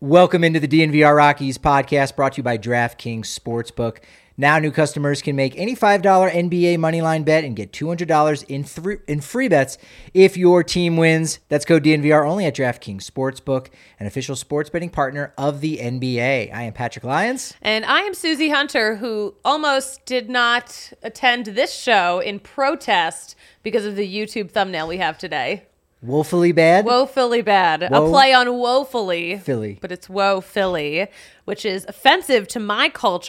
Welcome into the DNVR Rockies podcast brought to you by DraftKings Sportsbook. Now new customers can make any $5 NBA moneyline bet and get $200 in free bets if your team wins. That's code DNVR only at DraftKings Sportsbook, an official sports betting partner of the NBA. I am Patrick Lyons. And I am Susie Hunter, who almost did not attend this show in protest because of the YouTube thumbnail we have today. Woefully bad? Woefully bad. A play on woefully. Philly. But it's woe Philly, which is offensive to my culture.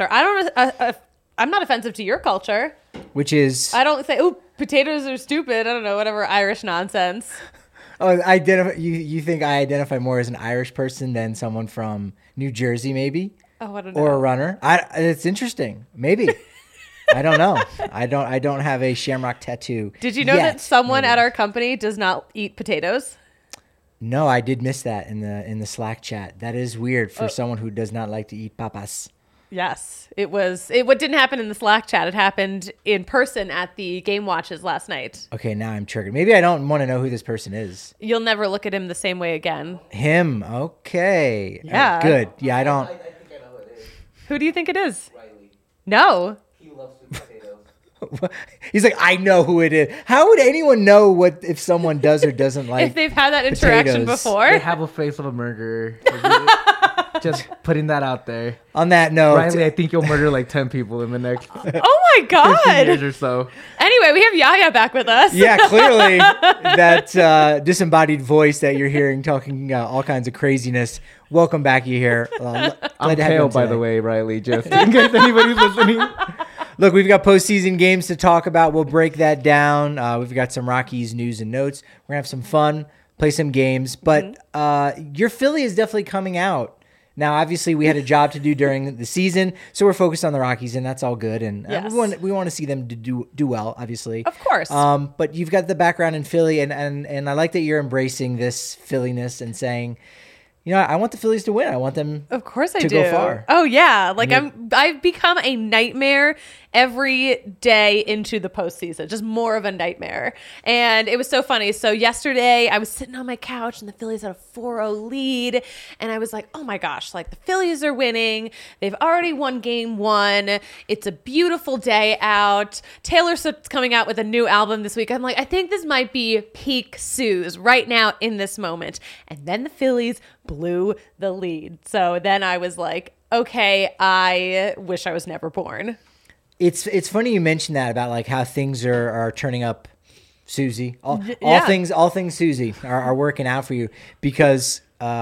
I'm not offensive to your culture. Which is? I don't say, ooh, potatoes are stupid. I don't know, whatever Irish nonsense. Oh, you think I identify more as an Irish person than someone from New Jersey, maybe? Oh, I don't know. Or a runner? It's interesting. Maybe. I don't know. I don't have a shamrock tattoo. Did you know that someone at our company does not eat potatoes? No, I did miss that in the Slack chat. That is weird for someone who does not like to eat papas. Yes, it was. What didn't happen in the Slack chat, it happened in person at the game watches last night. Okay, now I'm triggered. Maybe I don't want to know who this person is. You'll never look at him the same way again. Him. Okay. Yeah. Good. Yeah, I don't. I think I know who it is. Who do you think it is? Riley. No. He loves sweet potatoes. He's like, I know who it is. How would anyone know if someone does or doesn't like If they've had that interaction potatoes? before. They have a face of a murderer. Just putting that out there. On that note, Riley, I think you'll murder like 10 people in the next Oh my 15 God. years or so. Anyway, we have Yaya back with us. yeah, clearly that disembodied voice that you're hearing talking all kinds of craziness. Welcome back, you here. I'm pale, by the way, Riley, just in case anybody's listening. Look, we've got postseason games to talk about. We'll break that down. We've got some Rockies news and notes. We're going to have some fun, play some games. But your Philly is definitely coming out. Now, obviously, we had a job to do during the season, so we're focused on the Rockies, and that's all good. And Yes. we want to see them do well, obviously. Of course. But you've got the background in Philly, and I like that you're embracing this Philliness and saying, you know, I want the Phillies to win. I want them Of course I to do. go far. Oh yeah, like I've become a nightmare every day into the postseason, just more of a nightmare. And it was so funny. So yesterday I was sitting on my couch and the Phillies had a 4-0 lead, and I was like, oh my gosh, like the Phillies are winning. They've already won game 1. It's a beautiful day out. Taylor Swift's coming out with a new album this week. I'm like, I think this might be peak Suze right now in this moment. And then the Phillies blew the lead. So then I was like, okay, I wish I was never born. It's funny you mentioned that about like how things are turning up, Susie. All Yeah. things Susie are working out for you because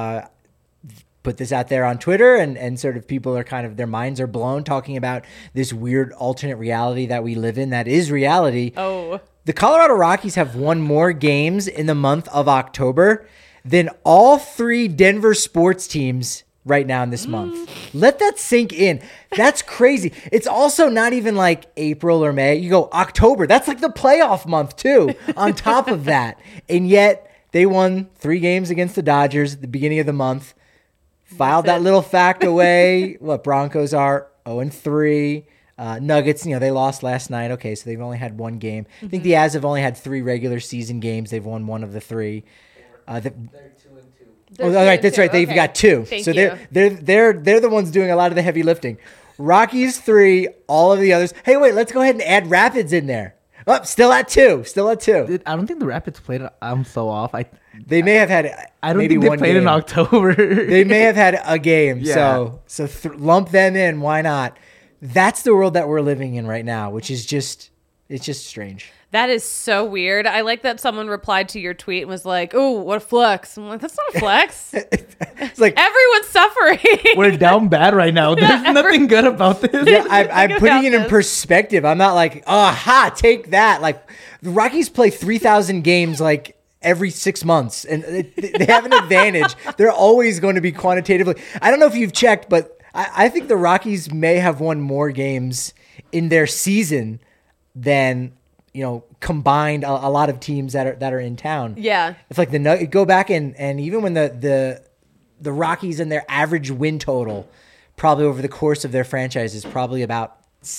put this out there on Twitter and sort of people are kind of their minds are blown talking about this weird alternate reality that we live in that is reality. Oh. The Colorado Rockies have won more games in the month of October than all 3 Denver sports teams right now in this month. Let that sink in. That's crazy. It's also not even like April or May. You go October. That's like the playoff month too, on top of that. And yet they won 3 games against the Dodgers at the beginning of the month. Filed that little fact away. What, Broncos are 0-3. Nuggets, they lost last night. Okay, so they've only had 1 game. I think the Avs have only had 3 regular season games. They've won 1 of the 3. They're 2-2. Oh, all right, that's right. They've got 2. Thank so you. they're the ones doing a lot of the heavy lifting. Rockies 3, all of the others. Hey, wait, let's go ahead and add Rapids in there. Oh, still at 2. I don't think the Rapids played. I'm so off. They may have had. I don't maybe think they one played game. in October. They may have had a game. Yeah. So lump them in. Why not? That's the world that we're living in right now, which is just strange. That is so weird. I like that someone replied to your tweet and was like, oh, what a flex. I'm like, that's not a flex. It's like Everyone's suffering. We're down bad right now. There's nothing good about this. yeah, I'm Think putting about it in this. perspective. I'm not like, take that. Like the Rockies play 3,000 games like every 6 months, and they have an advantage. They're always going to be quantitatively. I don't know if you've checked, but I think the Rockies may have won more games in their season than combined a lot of teams that are in town. Yeah. It's like go back and even when the Rockies and their average win total probably over the course of their franchise is probably about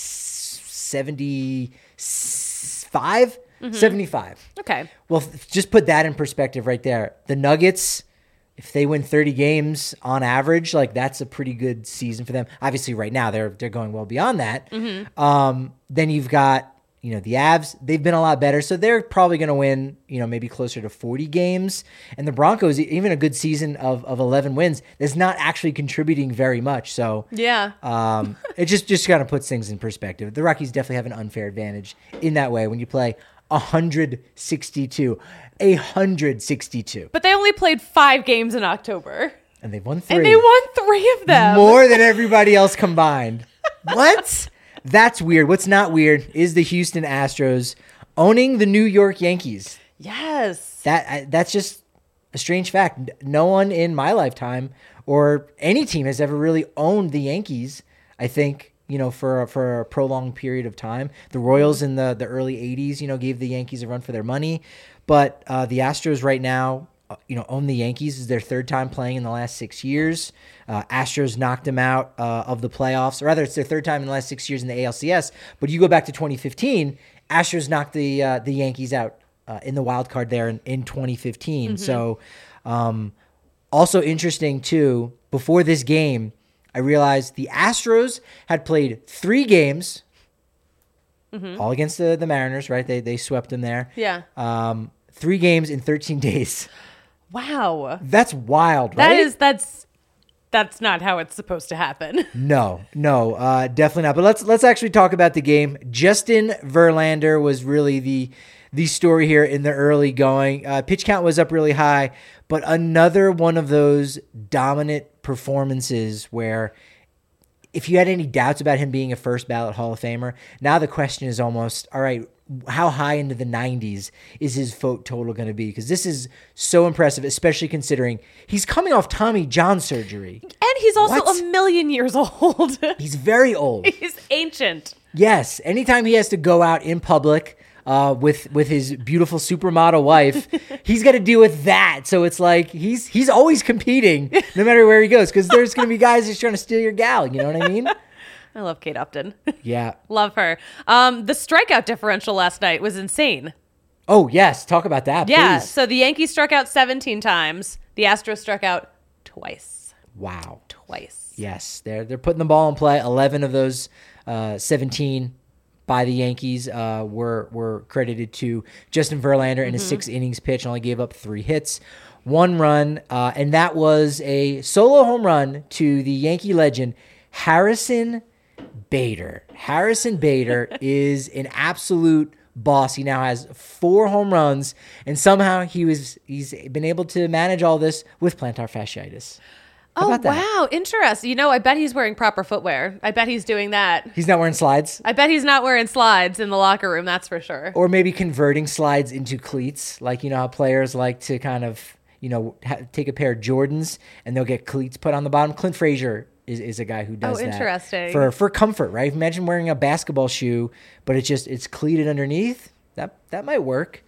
75. Mm-hmm. 75. Okay. Well, just put that in perspective right there. The Nuggets, if they win 30 games on average, like that's a pretty good season for them. Obviously, right now they're going well beyond that. Then you've got the Avs. They've been a lot better, so they're probably going to win maybe closer to 40 games. And the Broncos, even a good season of 11 wins, is not actually contributing very much. So Yeah. it just kind of puts things in perspective. The Rockies definitely have an unfair advantage in that way when you play 162. But they only played 5 games in October. And they've won 3. And they won 3 of them. More than everybody else combined. What? That's weird. What's not weird is the Houston Astros owning the New York Yankees. Yes. That's just a strange fact. No one in my lifetime or any team has ever really owned the Yankees, I think, for a prolonged period of time. The Royals in the early 80s, gave the Yankees a run for their money. But the Astros right now, own the Yankees. Is their 3rd time playing in the last 6 years. Astros knocked them out of the playoffs. Or rather, it's their 3rd time in the last 6 years in the ALCS. But you go back to 2015, Astros knocked the Yankees out in the wild card there in 2015. So also interesting, too, before this game, I realized the Astros had played 3 games, all against the Mariners, right? They swept them there. Yeah. 3 games in 13 days. Wow. That's wild, right? That's not how it's supposed to happen. No, definitely not. But let's actually talk about the game. Justin Verlander was really the story here in the early going. Pitch count was up really high, but another one of those dominant performances where if you had any doubts about him being a first ballot Hall of Famer, now the question is almost, all right, how high into the 90s is his vote total going to be? Because this is so impressive, especially considering he's coming off Tommy John surgery. And he's also What? a million years old. He's very old. He's ancient. Yes. Anytime he has to go out in public with his beautiful supermodel wife, he's got to deal with that. So it's like he's always competing no matter where he goes because there's going to be guys just trying to steal your gal. You know what I mean? I love Kate Upton. Yeah. Love her. The strikeout differential last night was insane. Oh, yes. Talk about that, Yeah. please. So the Yankees struck out 17 times. The Astros struck out twice. Wow. Twice. Yes. They're putting the ball in play. 11 of those 17 by the Yankees were credited to Justin Verlander in his 6 innings pitch and only gave up 3 hits, 1 run. And that was a solo home run to the Yankee legend, Harrison Bader. Harrison Bader is an absolute boss. He now has 4 home runs, and somehow he's been able to manage all this with plantar fasciitis. How Oh, about that? wow. Interesting. I bet he's wearing proper footwear. I bet he's doing that. He's not wearing slides? I bet he's not wearing slides in the locker room. That's for sure. Or maybe converting slides into cleats. Like, how players like to kind of, take a pair of Jordans and they'll get cleats put on the bottom. Clint Frazier is a guy who does that. Interesting. For comfort, right? Imagine wearing a basketball shoe, but it's cleated underneath. That might work.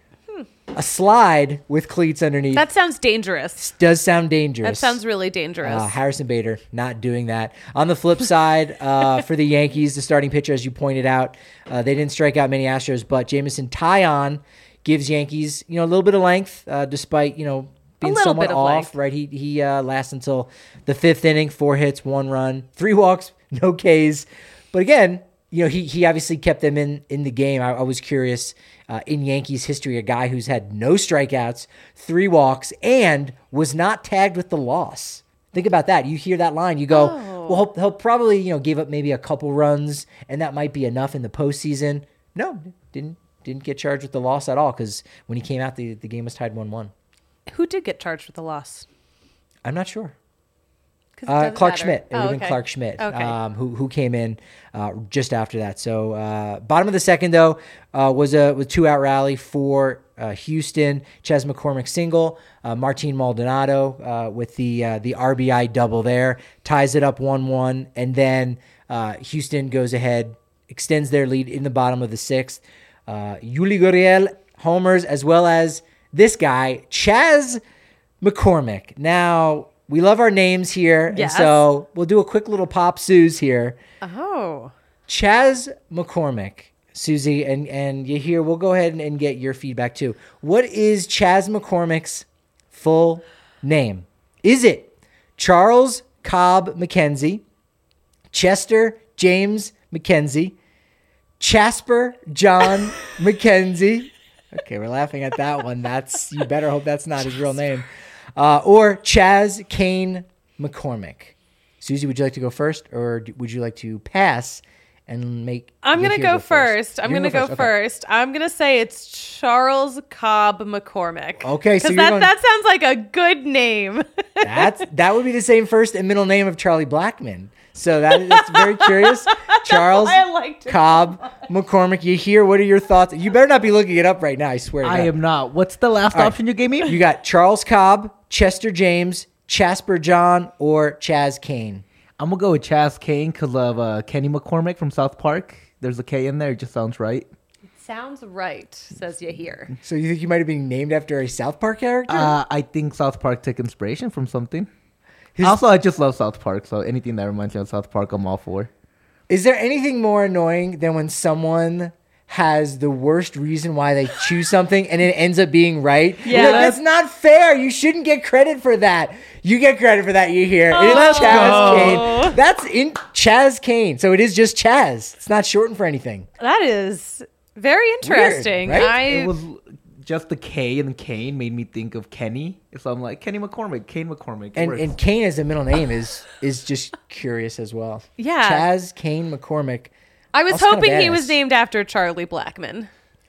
A slide with cleats underneath. That sounds dangerous. Does sound dangerous. That sounds really dangerous. Harrison Bader not doing that. On the flip side, for the Yankees, the starting pitcher, as you pointed out, they didn't strike out many Astros, but Jameson Taillon gives Yankees, a little bit of length, despite, being little somewhat bit of off, length. right? He lasts until the 5th inning, 4 hits, 1 run, 3 walks, no Ks. But again, he obviously kept them in the game. I was curious, in Yankees history, a guy who's had no strikeouts, 3 walks, and was not tagged with the loss. Think about that. You hear that line, you go, well, he'll probably, give up maybe a couple runs, and that might be enough in the postseason. No, didn't get charged with the loss at all because when he came out, the game was tied 1-1. Who did get charged with the loss? I'm not sure. 'Cause it doesn't Clark matter. Schmidt. It would have been okay. Clark Schmidt, Okay. who came in just after that. So bottom of the second, though, was a 2-out rally for Houston. Chas McCormick single. Martin Maldonado with the RBI double there. Ties it up 1-1. And then Houston goes ahead, extends their lead in the bottom of the 6th. Yuli Gurriel homers, as well as this guy, Chas McCormick. Now, we love our names here, Yes. and so we'll do a quick little pop Suze here. Oh. Chas McCormick, Susie, and you hear, we'll go ahead and get your feedback too. What is Chas McCormick's full name? Is it Charles Cobb McKenzie, Chester James McKenzie, Jasper John McKenzie? Okay, we're laughing at that one. You better hope that's not his real name. Or Chaz Kane McCormick. Susie, would you like to go first, or would you like to pass and make? I'm gonna go first. I'm gonna go Okay. first. I'm gonna say it's Charles Cobb McCormick. Okay, so because you're going- that sounds like a good name. That would be the same first and middle name of Charlie Blackmon. So that's very curious. Charles why I liked it Cobb McCormick. You hear? What are your thoughts? You better not be looking it up right now. I swear. to I God. am not. What's the last right. option you gave me? You got Charles Cobb, Chester James, Jasper John, or Chaz Kane. I'm gonna go with Chaz Kane because of Kenny McCormick from South Park. There's a K in there. It just sounds right. Sounds right, says you here. So you think you might have been named after a South Park character? I think South Park took inspiration from something. His- Also, I just love South Park, so anything that reminds me of South Park, I'm all for. Is there anything more annoying than when someone has the worst reason why they choose something and it ends up being right? Yeah. You're like, that's not fair. You shouldn't get credit for that. You get credit for that. You hear it is Let's Chaz go. Kane. That's in Chaz Kane. So it is just Chaz. It's not shortened for anything. That is very interesting. right? It was just the K and the Kane made me think of Kenny. So I'm like, Kenny McCormick, Kane McCormick. It works. And Kane as a middle name is just curious as well. Yeah. Chaz Kane McCormick. I was Also kinda hoping he was badass. named after Charlie Blackmon.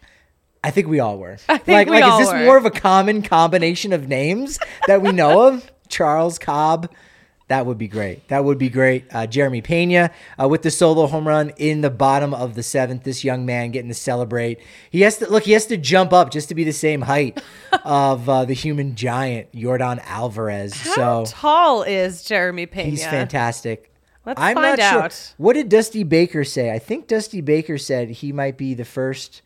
I think we all were. I think we all is this were. more of a common combination of names that we know of? Charles Cobb. That would be great. That would be great. Jeremy Pena with the solo home run in the bottom of the seventh. This young man getting to celebrate. He has to jump up just to be the same height of the human giant, Yordan Alvarez. How tall is Jeremy Pena? He's fantastic. Let's I'm find not sure. out. What did Dusty Baker say? I think Dusty Baker said he might be the first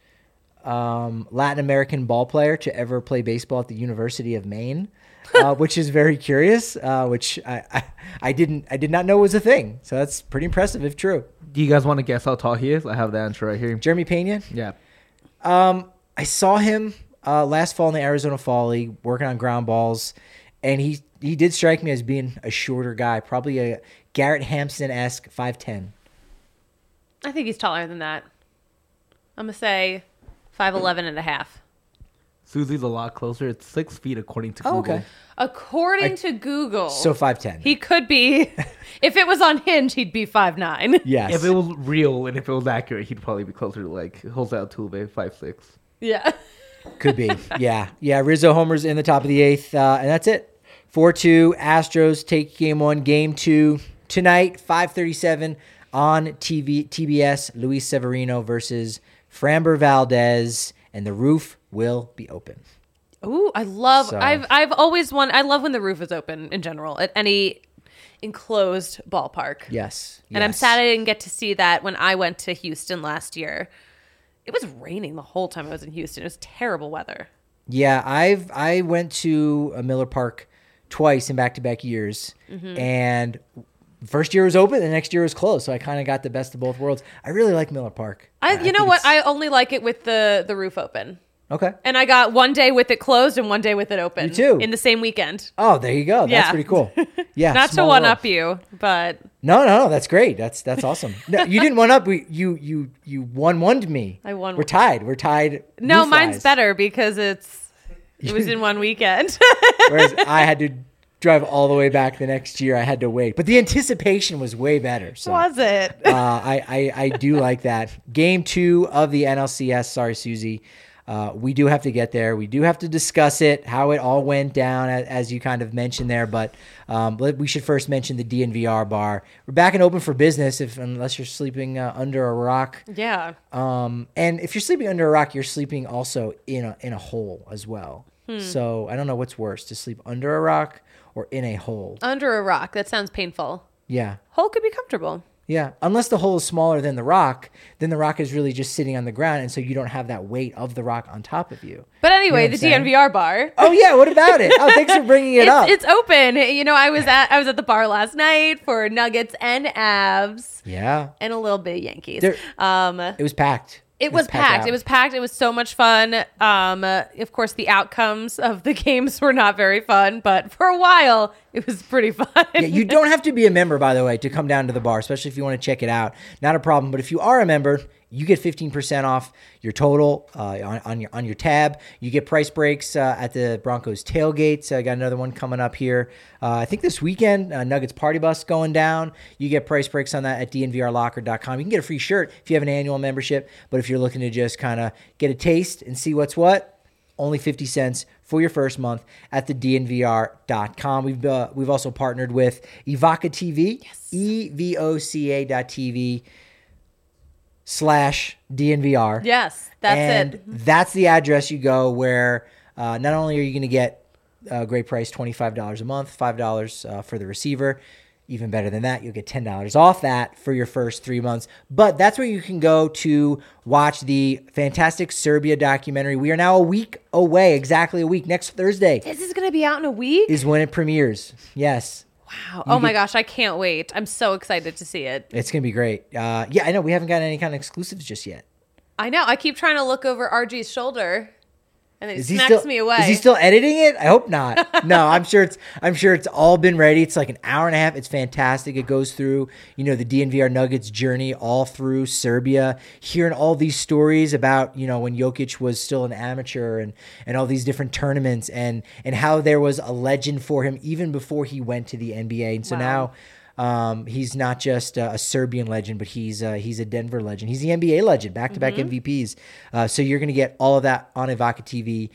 Latin American ball player to ever play baseball at the University of Maine, which is very curious. Which I did not know was a thing. So that's pretty impressive if true. Do you guys want to guess how tall he is? I have the answer right here. Jeremy Pena. Yeah. I saw him last fall in the Arizona Fall League working on ground balls, and he did strike me as being a shorter guy, probably a Garrett Hampson-esque 5'10". I think he's taller than that. I'm going to say 5'11 and a half. Susie's a lot closer. It's 6 feet according to Google. Okay. According to Google, So 5'10". he could be, if it was on Hinge, he'd be 5'9". Yes. If it was real and if it was accurate, he'd probably be closer to like Jose Altuve, 5'6". Yeah. Could be. Yeah. Rizzo homers in the top of the eighth, and that's it. 4-2. Astros take game one. Game two tonight, 5:37 on TBS. Luis Severino versus Framber Valdez, and the roof will be open. Ooh, I love. So- I've always I love when the roof is open in general at any enclosed ballpark. Yes. And I'm yes. sad I didn't get to see that when I went to Houston last year. It was raining the whole time I was in Houston. It was terrible weather. Yeah, I went to Miller Park twice in back-to-back years, and first year was open, the next year was closed, so I kind of got the best of both worlds. I really like Miller Park. You know think what? it's- I only like it with the roof open. Okay. And I got one day with it closed and one day with it open. Me too. In the same weekend. Oh, there you go. That's Yeah. pretty cool. Yeah. Not to small one world. up you, but No, that's great. That's awesome. No, you didn't one up. You one-one'd me. I won. We're tied. no, roof-wise. mine's better because it was in one weekend. Whereas I had to drive all the way back the next year. I had to wait, but the anticipation was way better. So Was it? I do like that. Game 2 of the NLCS. Sorry, Susie. We do have to get there. We do have to discuss it, how it all went down, as you kind of mentioned there. But we should first mention the DNVR bar. We're back and open for business, unless you're sleeping under a rock. Yeah. And if you're sleeping under a rock, you're sleeping also in a hole as well. So I don't know what's worse, to sleep under a rock or in a hole. Under a rock. That sounds painful. Yeah. Hole could be comfortable. Yeah, unless the hole is smaller than the rock, then the rock is really just sitting on the ground, and so you don't have that weight of the rock on top of you. But anyway, You know what the I'm saying? DNVR bar. Oh yeah, what about it? Oh, thanks for bringing it up. It's open. You know, I was at the bar last night for Nuggets and Avs Yeah, and a little bit of Yankees. There- Um, it was packed. It was packed. out. It was packed. It was so much fun. Of course, the outcomes of the games were not very fun, but for a while, it was pretty fun. Yeah, you don't have to be a member, by the way, to come down to the bar, especially if you want to check it out. Not a problem. But if you are a member, you get 15% off your total on your tab. You get price breaks at the Broncos tailgates. I got another one coming up here. I think this weekend, Nuggets Party Bus going down. You get price breaks on that at dnvrlocker.com. You can get a free shirt if you have an annual membership. But if you're looking to just kind of get a taste and see what's what, only 50 cents for your first month at the dnvr.com. We've also partnered with Evoca TV, evoca.tv/DNVR. Yes, that's it. That's the address you go where not only are you going to get a great price, $25 a month, $5 for the receiver. Even better than that, you'll get $10 off that for your first 3 months. But that's where you can go to watch the fantastic Serbia documentary. We are now a week away, exactly a week. Next Thursday This is going to be out in a week? is when it premieres. Yes. Wow. Oh my gosh, I can't wait. I'm so excited to see it. It's going to be great. Yeah, I know. We haven't got any kind of exclusives just yet. I know. I keep trying to look over RG's shoulder, and it smacks me away. Is he still editing it? I hope not. No, I'm sure it's all been ready. It's like an hour and a half. It's fantastic. It goes through, the DNVR Nuggets journey all through Serbia, hearing all these stories about, when Jokic was still an amateur and all these different tournaments and how there was a legend for him even before he went to the NBA. And so now he's not just a Serbian legend, but he's a Denver legend. He's the NBA legend, back-to-back MVPs. So you're going to get all of that on Evoca TV,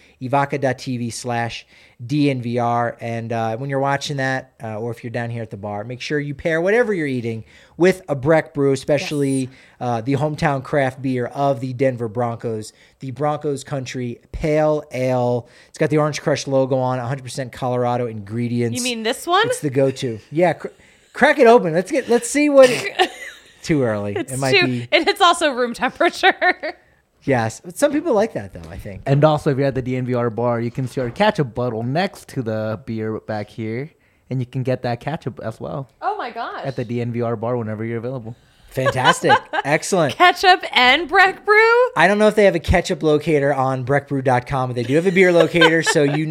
evoca.tv/DNVR. And when you're watching that, or if you're down here at the bar, make sure you pair whatever you're eating with a Breck Brew, especially the hometown craft beer of the Denver Broncos, the Broncos Country Pale Ale. It's got the Orange Crush logo on, 100% Colorado ingredients. You mean this one? It's the go-to. Yeah. Crack it open. Let's see what. Too early. It's it might be. And it's also room temperature. Yes, but some people like that though. I think. And also, if you're at the DNVR bar, you can see our ketchup bottle next to the beer back here, and you can get that ketchup as well Oh my gosh. at the DNVR bar whenever you're available. Fantastic. Excellent. Ketchup and Breck Brew? I don't know if they have a ketchup locator on breckbrew.com, but they do have a beer locator, so and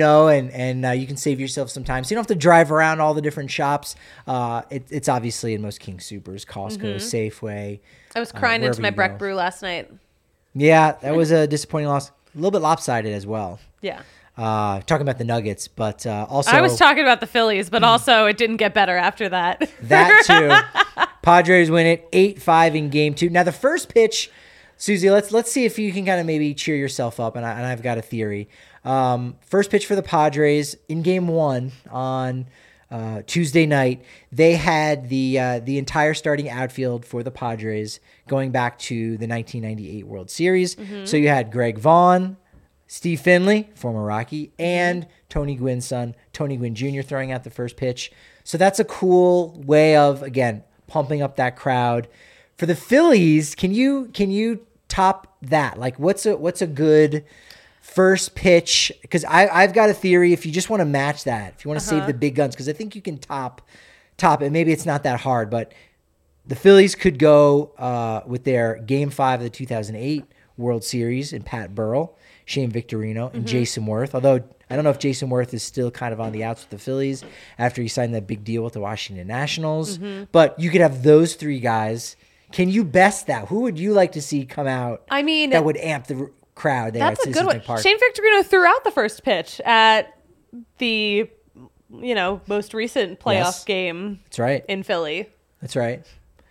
you can save yourself some time. So you don't have to drive around all the different shops. It's obviously in most King Supers, Costco, Safeway. I was crying wherever into my you Breck go. Brew last night. Yeah, that was a disappointing loss. A little bit lopsided as well. Yeah. Talking about the Nuggets, but also I was talking about the Phillies, but also it didn't get better after that. that too. Padres win it 8-5 in game 2. Now the first pitch, Susie, let's see if you can kind of maybe cheer yourself up, and I've got a theory. First pitch for the Padres in game 1 on Tuesday night, they had the entire starting outfield for the Padres going back to the 1998 World Series. So you had Greg Vaughn, Steve Finley, former Rocky, and Tony Gwynn's son, Tony Gwynn Jr. throwing out the first pitch. So that's a cool way of, again, pumping up that crowd. For the Phillies, can you top that? Like, what's a good first pitch? Because I've got a theory. If you just want to match that, if you want to save the big guns, because I think you can top it. Maybe it's not that hard, but the Phillies could go with their Game 5 of the 2008 World Series and Pat Burrell, Shane Victorino, and Jason Worth. Although I don't know if Jason Worth is still kind of on the outs with the Phillies after he signed that big deal with the Washington Nationals. But you could have those three guys. Can you best that? Who would you like to see come out? I mean, that would amp the crowd there that's at a good Citizens one. Bank Park. Shane Victorino threw out the first pitch at the, most recent playoff Yes. game That's right. in Philly. That's right.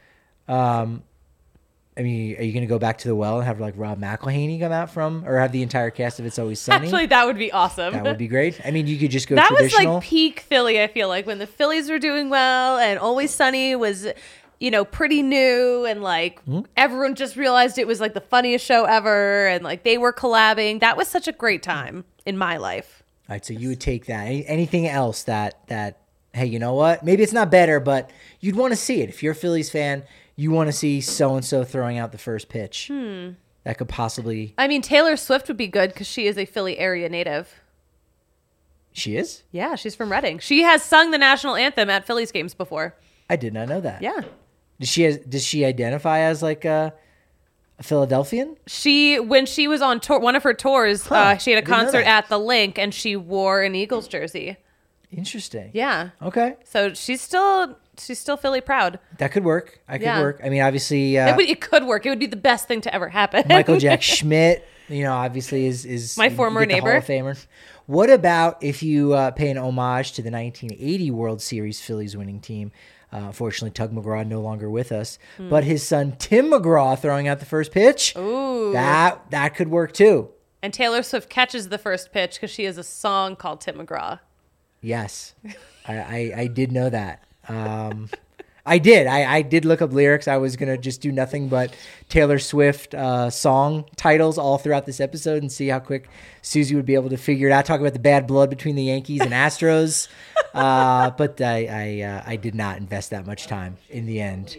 I mean, are you going to go back to the well and have like Rob McElhaney come out or have the entire cast of It's Always Sunny? Actually, that would be awesome. That would be great. I mean, you could just go That was traditional. like peak Philly, I feel like, when the Phillies were doing well and Always Sunny was, pretty new and like everyone just realized it was like the funniest show ever and like they were collabing. That was such a great time in my life. All right, so you would take that. Anything else that hey, you know what? Maybe it's not better, but you'd want to see it. If you're a Phillies fan, you want to see so-and-so throwing out the first pitch. That could possibly... I mean, Taylor Swift would be good because she is a Philly area native. She is? Yeah, she's from Reading. She has sung the national anthem at Phillies games before. I did not know that. Yeah. Does she identify as like a A Philadelphian? When she was on tour, one of her tours, Huh, she had a didn't know concert that. at the Link, and she wore an Eagles jersey. Interesting. Yeah. Okay. So she's still Philly proud. That could work. I could Yeah. work. I mean, obviously, It could work. It would be the best thing to ever happen. Michael Jack Schmidt, obviously is My you former get the neighbor. Hall of Famer. What about if you pay an homage to the 1980 World Series Phillies winning team? Unfortunately, Tug McGraw no longer with us, but his son Tim McGraw throwing out the first pitch. Ooh. That could work too. And Taylor Swift catches the first pitch because she has a song called Tim McGraw. Yes, I did know that. I did. I did look up lyrics. I was gonna just do nothing but Taylor Swift song titles all throughout this episode and see how quick Susie would be able to figure it out. Talk about the bad blood between the Yankees and Astros, but I did not invest that much time in the end.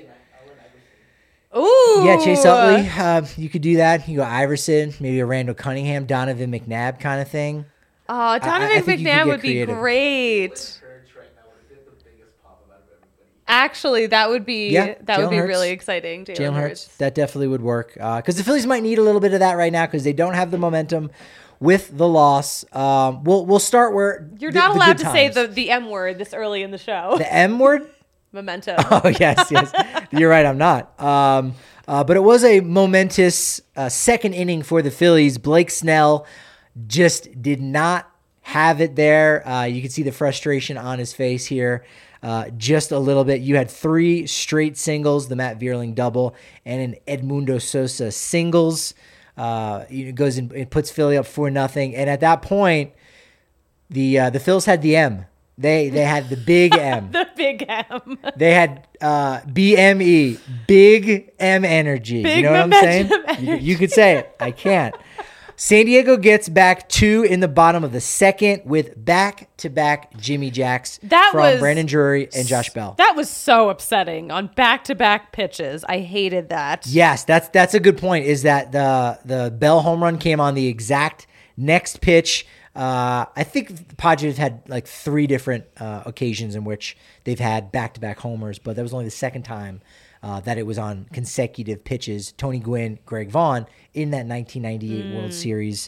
Ooh. Yeah, Chase Utley, you could do that. You go Iverson, maybe a Randall Cunningham, Donovan McNabb kind of thing. Oh, I Donovan think you could McNabb get would be creative. great. Church right now would get the biggest pop out of everybody. Actually, that would be Yeah, that would Jalen be Hurts. really exciting. Jalen Hurts, that definitely would work. Because the Phillies might need a little bit of that right now because they don't have the momentum with the loss. We'll start where You're the- not the allowed good to say times. the M word this early in the show. The M word. Momentum. Oh yes. You're right. I'm not. But it was a momentous second inning for the Phillies. Blake Snell just did not have it there. You can see the frustration on his face here. Just a little bit. You had 3 straight singles, the Matt Vierling double, and an Edmundo Sosa singles. It goes and it puts Philly up 4-0. And at that point, the Phils had the M. They had the big M. The big M. They had BME, Big M Energy. Big you know what I'm saying? momentum You could say it. I can't. San Diego gets back 2 in the bottom of the second with back-to-back Jimmy Jacks from Brandon Drury and Josh Bell. That was so upsetting on back-to-back pitches. I hated that. Yes, that's a good point, is that the Bell home run came on the exact next pitch. I think the Padres had like 3 different occasions in which they've had back-to-back homers, but that was only the second time that it was on consecutive pitches. Tony Gwynn, Greg Vaughn in that 1998 World Series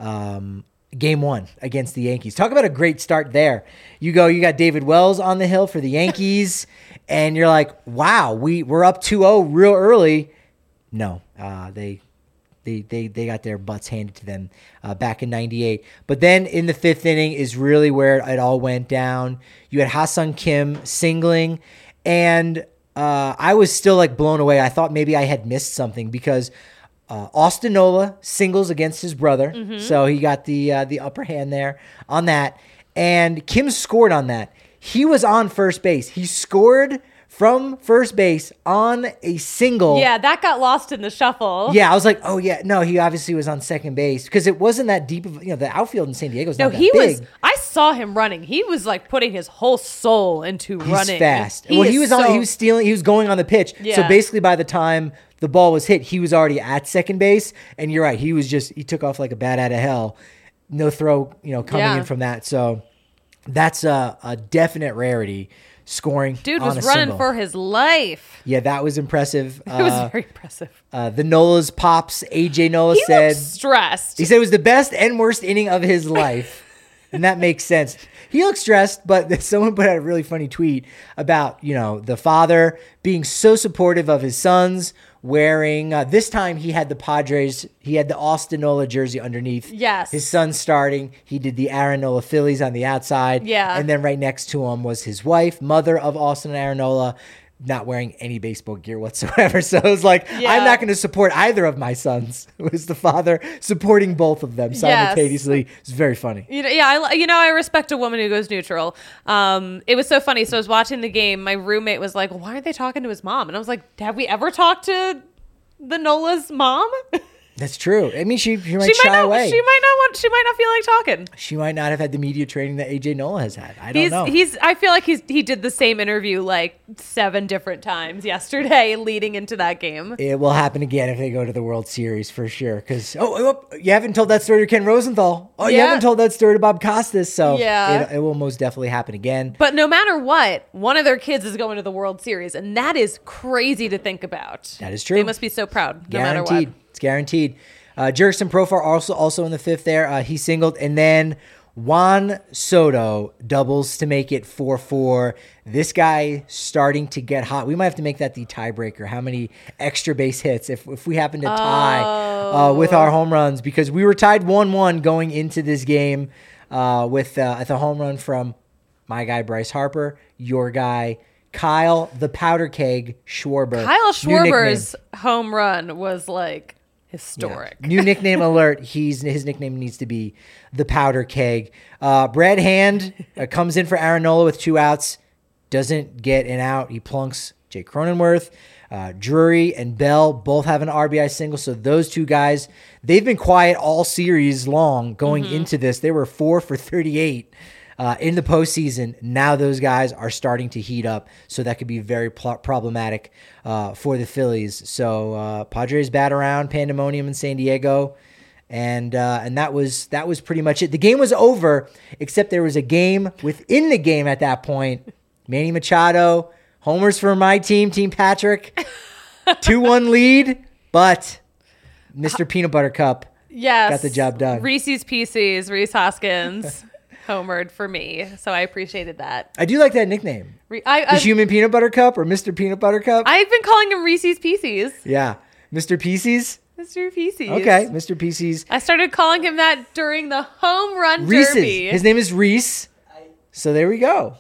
Game 1 against the Yankees. Talk about a great start there. You got David Wells on the hill for the Yankees, and you're like, wow, we're up 2-0 real early. No, they got their butts handed to them back in 98. But then in the 5th inning is really where it all went down. You had Ha-Sung Kim singling, and I was still like blown away. I thought maybe I had missed something because Austin Nola singles against his brother. So he got the upper hand there on that. And Kim scored on that. He was on first base. He scored from first base on a single. Yeah, that got lost in the shuffle. Yeah, I was like, oh yeah, no, he obviously was on second base because it wasn't that deep of, the outfield in San Diego is No, not that he big. was. I saw him running. He was like putting his whole soul into He's running. fast. He He was going on the pitch. So Yeah. basically by the time the ball was hit, he was already at second base. And you're right, he took off like a bat out of hell. No throw, coming Yeah. in from that. So that's a definite rarity. Scoring. Dude on was a running single. for his life. Yeah, that was impressive. It was very impressive. The Nola's pops, AJ Nola He said. looked stressed. He said it was the best and worst inning of his life. And that makes sense. He looked stressed, but someone put out a really funny tweet about, the father being so supportive of his sons, wearing, this time he had the Austin Nola jersey underneath. Yes. His son starting. He did the Aaron Nola Phillies on the outside. Yeah. And then right next to him was his wife, mother of Austin and Aaron Nola, not wearing any baseball gear whatsoever. So it was like, Yeah. I'm not going to support either of my sons. It was the father supporting both of them simultaneously. It's very funny. I respect a woman who goes neutral. It was so funny. So I was watching the game. My roommate was like, "Why aren't they talking to his mom?" And I was like, "Have we ever talked to the Nola's mom?" That's true. I mean, she might shy away. She might not feel like talking. She might not have had the media training that AJ Nola has had. I don't know. I feel like he did the same interview like 7 different times yesterday leading into that game. It will happen again if they go to the World Series for sure. Because you haven't told that story to Ken Rosenthal. Oh, you Yeah. haven't told that story to Bob Costas. So Yeah. it will most definitely happen again. But no matter what, one of their kids is going to the World Series, and that is crazy to think about. That is true. They must be so proud, no matter Guaranteed. what. It's guaranteed. Jurickson Profar also in the fifth there. He singled. And then Juan Soto doubles to make it 4-4. This guy starting to get hot. We might have to make that the tiebreaker. How many extra base hits if we happen to tie with our home runs? Because we were tied 1-1 going into this game with the home run from my guy Bryce Harper, your guy Kyle the Powder Keg Schwarber. Kyle Schwarber's home run was like historic. Yeah. New nickname alert. His nickname needs to be the Powder Keg. Brad Hand comes in for Aaron Nola with 2 outs. Doesn't get an out. He plunks Jake Cronenworth. Drury and Bell both have an RBI single. So those 2 guys, they've been quiet all series long going into this. They were 4 for 38 in the postseason. Now those guys are starting to heat up. So that could be very problematic for the Phillies. So Padres bat around pandemonium in San Diego. And that was pretty much it. The game was over, except there was a game within the game at that point. Manny Machado, homers for my team, Team Patrick. 2-1 lead, but Mr. Peanut Butter Cup got the job done. Reese's Pieces, Reese Hoskins, homered for me. So I appreciated that. I do like that nickname. The Human Peanut Butter Cup or Mr. Peanut Butter Cup? I've been calling him Reese's Pieces. Yeah. Mr. Pieces? Mr. Pieces. Okay, Mr. Pieces. I started calling him that during the home run Reese's. derby. His name is Reese. So there we go.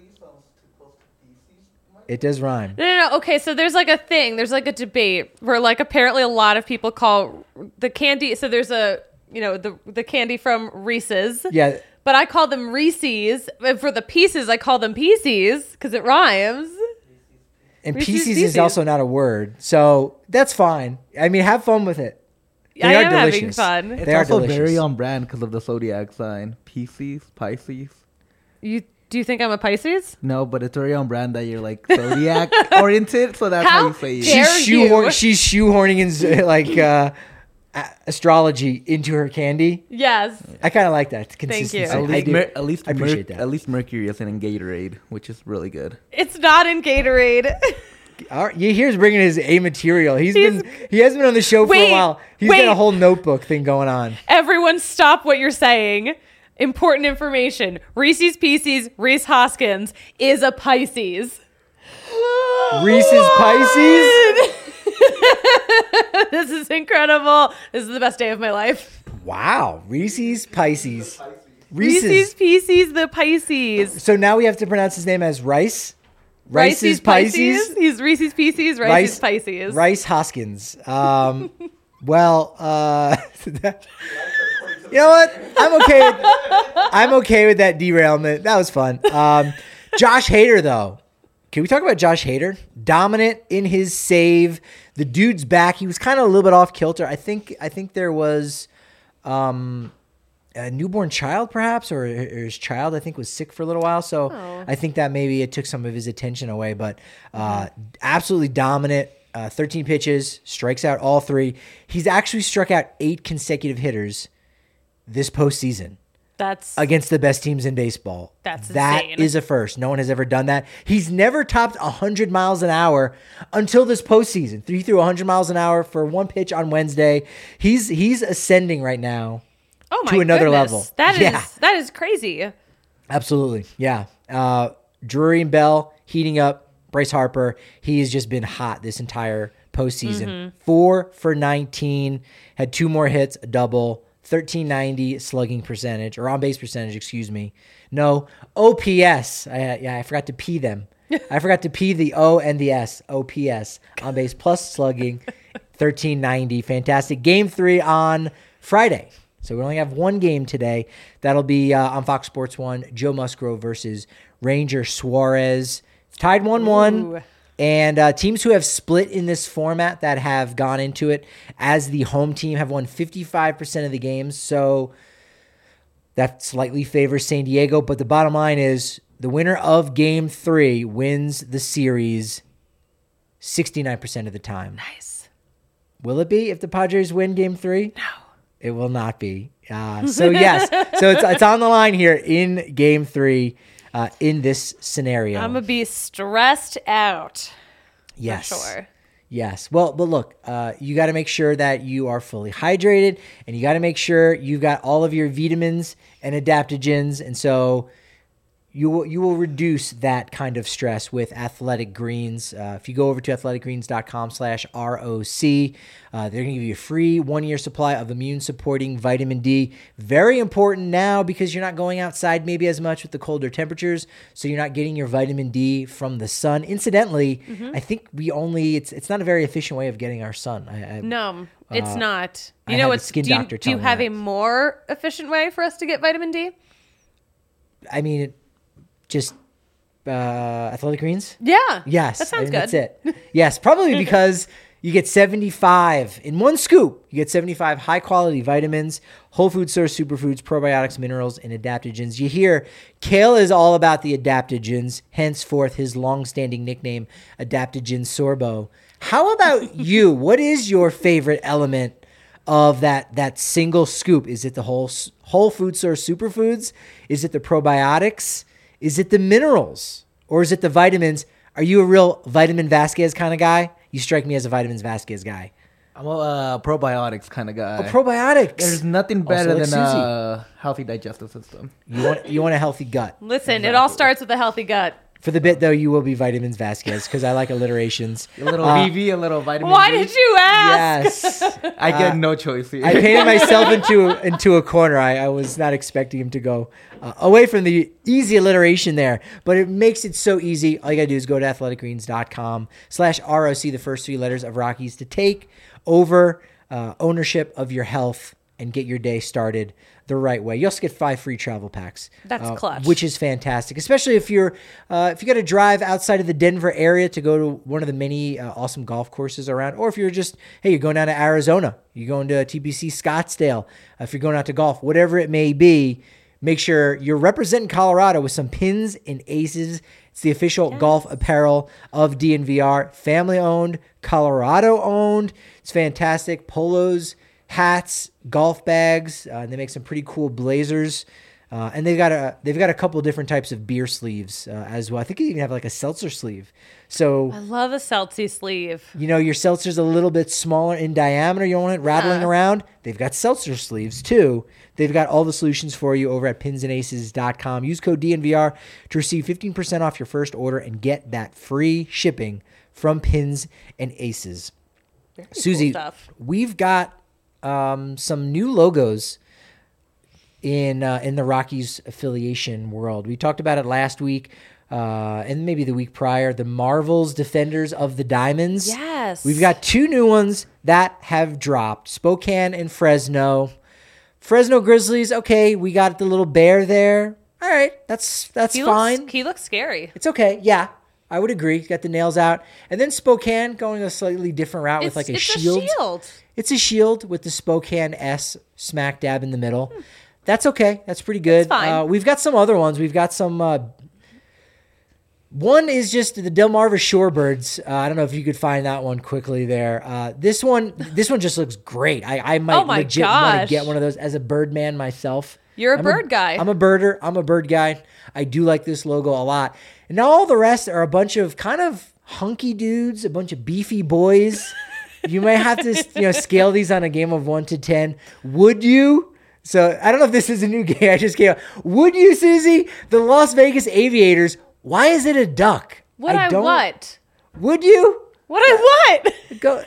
It does rhyme. No. Okay, so there's like a thing. There's like a debate where like apparently a lot of people call the candy. So there's the candy from Reese's. Yeah. But I call them Reese's. And for the pieces, I call them Pieces because it rhymes. And Reese's Pieces is also not a word. So that's fine. I mean, have fun with it. I am having fun. It's They are also delicious. very on brand because of the zodiac sign. Pisces. Do you think I'm a Pisces? No, but it's very on brand that you're like zodiac oriented, so that's how you say it. dare She's shoehorning in astrology into her candy. Yes. I kind of like that Thank you. consistency. I appreciate that. At least Mercury is in Gatorade, which is really good. It's not in Gatorade. All right, here's bringing his A material. He hasn't been on the show for a while. He's got a whole notebook thing going on. Everyone stop what you're saying. Important information. Reese's Pieces, Reese Hoskins is a Pisces. Reese's Pisces? This is incredible. This is the best day of my life. Wow. Reese's Pisces. Reese's Pieces, the Pisces. So now we have to pronounce his name as Rice? Rice's Pisces. He's Reese's Pieces, Rice's Pisces. Rice Hoskins. You know what? I'm okay with that derailment. That was fun. Josh Hader, though. Can we talk about Josh Hader? Dominant in his save. The dude's back. He was kind of a little bit off kilter. I think there was a newborn child, perhaps, or his child, I think, was sick for a little while. So I think that maybe it took some of his attention away. But absolutely dominant. 13 pitches, strikes out all 3. He's actually struck out 8 consecutive hitters this postseason. That's against the best teams in baseball. That insane. Is a first. No one has ever done that. He's never topped 100 miles an hour until this postseason. He threw 100 miles an hour for 1 pitch on Wednesday. He's ascending right now to another level. That is crazy. Absolutely. Yeah. Drury and Bell heating up. Bryce Harper, he has just been hot this entire postseason. 4 for 19, had 2 more hits, a double. 1390 slugging percentage, or on base percentage, excuse me. No, OPS. I forgot to P them. I forgot to P the O and the S. OPS, on base plus slugging, 1390. Fantastic. Game 3 on Friday. So we only have one game today. That'll be on Fox Sports 1, Joe Musgrove versus Ranger Suarez. It's tied 1-1. And teams who have split in this format that have gone into it as the home team have won 55% of the games. So that slightly favors San Diego. But the bottom line is the winner of Game 3 wins the series 69% of the time. Nice. Will it be if the Padres win Game 3? No. It will not be. So yes. So it's on the line here in Game 3. In this scenario, I'm gonna be stressed out. Yes. For sure. Yes. Well, but look, you got to make sure that you are fully hydrated, and you got to make sure you've got all of your vitamins and adaptogens. And so you will reduce that kind of stress with Athletic Greens. If you go over to athleticgreens.com/ROC, they're going to give you a free 1-year supply of immune-supporting vitamin D. Very important now because you're not going outside maybe as much with the colder temperatures, so you're not getting your vitamin D from the sun. Incidentally, I think it's not a very efficient way of getting our sun. No, it's not. I You know had a what's skin do you, doctor do you tell me have that. a more efficient way for us to get vitamin D? I mean, just Athletic Greens? Yeah. Yes. That sounds good. That's it. Yes, probably because you get 75 in one scoop. You get 75 high quality vitamins, whole food source superfoods, probiotics, minerals, and adaptogens. You hear Kale is all about the adaptogens, henceforth his long-standing nickname, Adaptogen Sorbo. How about you? What is your favorite element of that single scoop? Is it the whole food source superfoods? Is it the probiotics? Is it the minerals? Or is it the vitamins? Are you a real Vitamin Vasquez kind of guy? You strike me as a Vitamins Vasquez guy. I'm a probiotics kind of guy. Oh, probiotics. There's nothing Also better like than Susie. a healthy digestive system. You want a healthy gut. Listen, it all starts with a healthy gut. For the bit, though, you will be Vitamins Vasquez because I like alliterations. A little VV, a little vitamin Why D. did you ask? Yes. I get no choice here. I painted myself into a corner. I was not expecting him to go away from the easy alliteration there, but it makes it so easy. All you gotta do is go to athleticgreens.com/ROC, the first 3 letters of Rockies, to take over ownership of your health and get your day started the right way. You also get 5 free travel packs. That's clutch. Which is fantastic, especially if you got to drive outside of the Denver area to go to one of the many awesome golf courses around, or if you're just, hey, you're going down to Arizona, you're going to TPC Scottsdale, if you're going out to golf, whatever it may be, make sure you're representing Colorado with some pins and aces. It's the official golf apparel of DNVR, family owned, Colorado owned. It's fantastic. Polos, hats, golf bags. They make some pretty cool blazers, and they've got a couple different types of beer sleeves as well. I think you even have like a seltzer sleeve. So I love a Celtic sleeve. your seltzer's a little bit smaller in diameter. You don't want it rattling around. They've got seltzer sleeves too. They've got all the solutions for you over at pinsandaces.com. Use code DNVR to receive 15% off your first order and get that free shipping from Pins and Aces. Susie, stuff. we've got some new logos in the Rockies affiliation world. We talked about it last week and maybe the week prior. The Marvels Defenders of the Diamonds. Yes. We've got 2 new ones that have dropped. Spokane and Fresno. Fresno Grizzlies, okay, we got the little bear there. All right, that's fine. He looks scary. It's okay. Yeah, I would agree. Got the nails out. And then Spokane going a slightly different route with like a shield. A shield. It's a shield with the Spokane S smack dab in the middle. That's okay. That's pretty good. It's fine. We've got some other ones. We've got some. One is just the Delmarva Shorebirds. I don't know if you could find that one quickly there. This one just looks great. I might Oh my legit want to gosh. get one of those as a bird man myself. You're a I'm bird guy. I'm a birder. I'm a bird guy. I do like this logo a lot. And now all the rest are a bunch of kind of hunky dudes, a bunch of beefy boys. You may have to scale these on a game of 1 to 10. Would you? So I don't know if this is a new game. I just came up. Would you, Susie? The Las Vegas Aviators. Why is it a duck? What I what? Would you What I what? go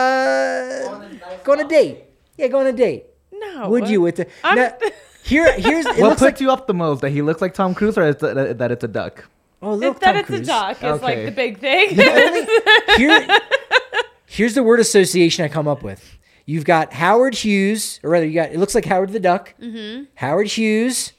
on a date? Yeah, go on a date. No. Would you with the I'm- now, here's it What looks puts like you up the most? That he looks like Tom Cruise, or that it's a duck? oh look that Tom it's Cruise. a duck is Okay. like the big thing. Here's the word association I come up with. You've got Howard Hughes, or rather, it looks like Howard the Duck. Mm-hmm. Howard Hughes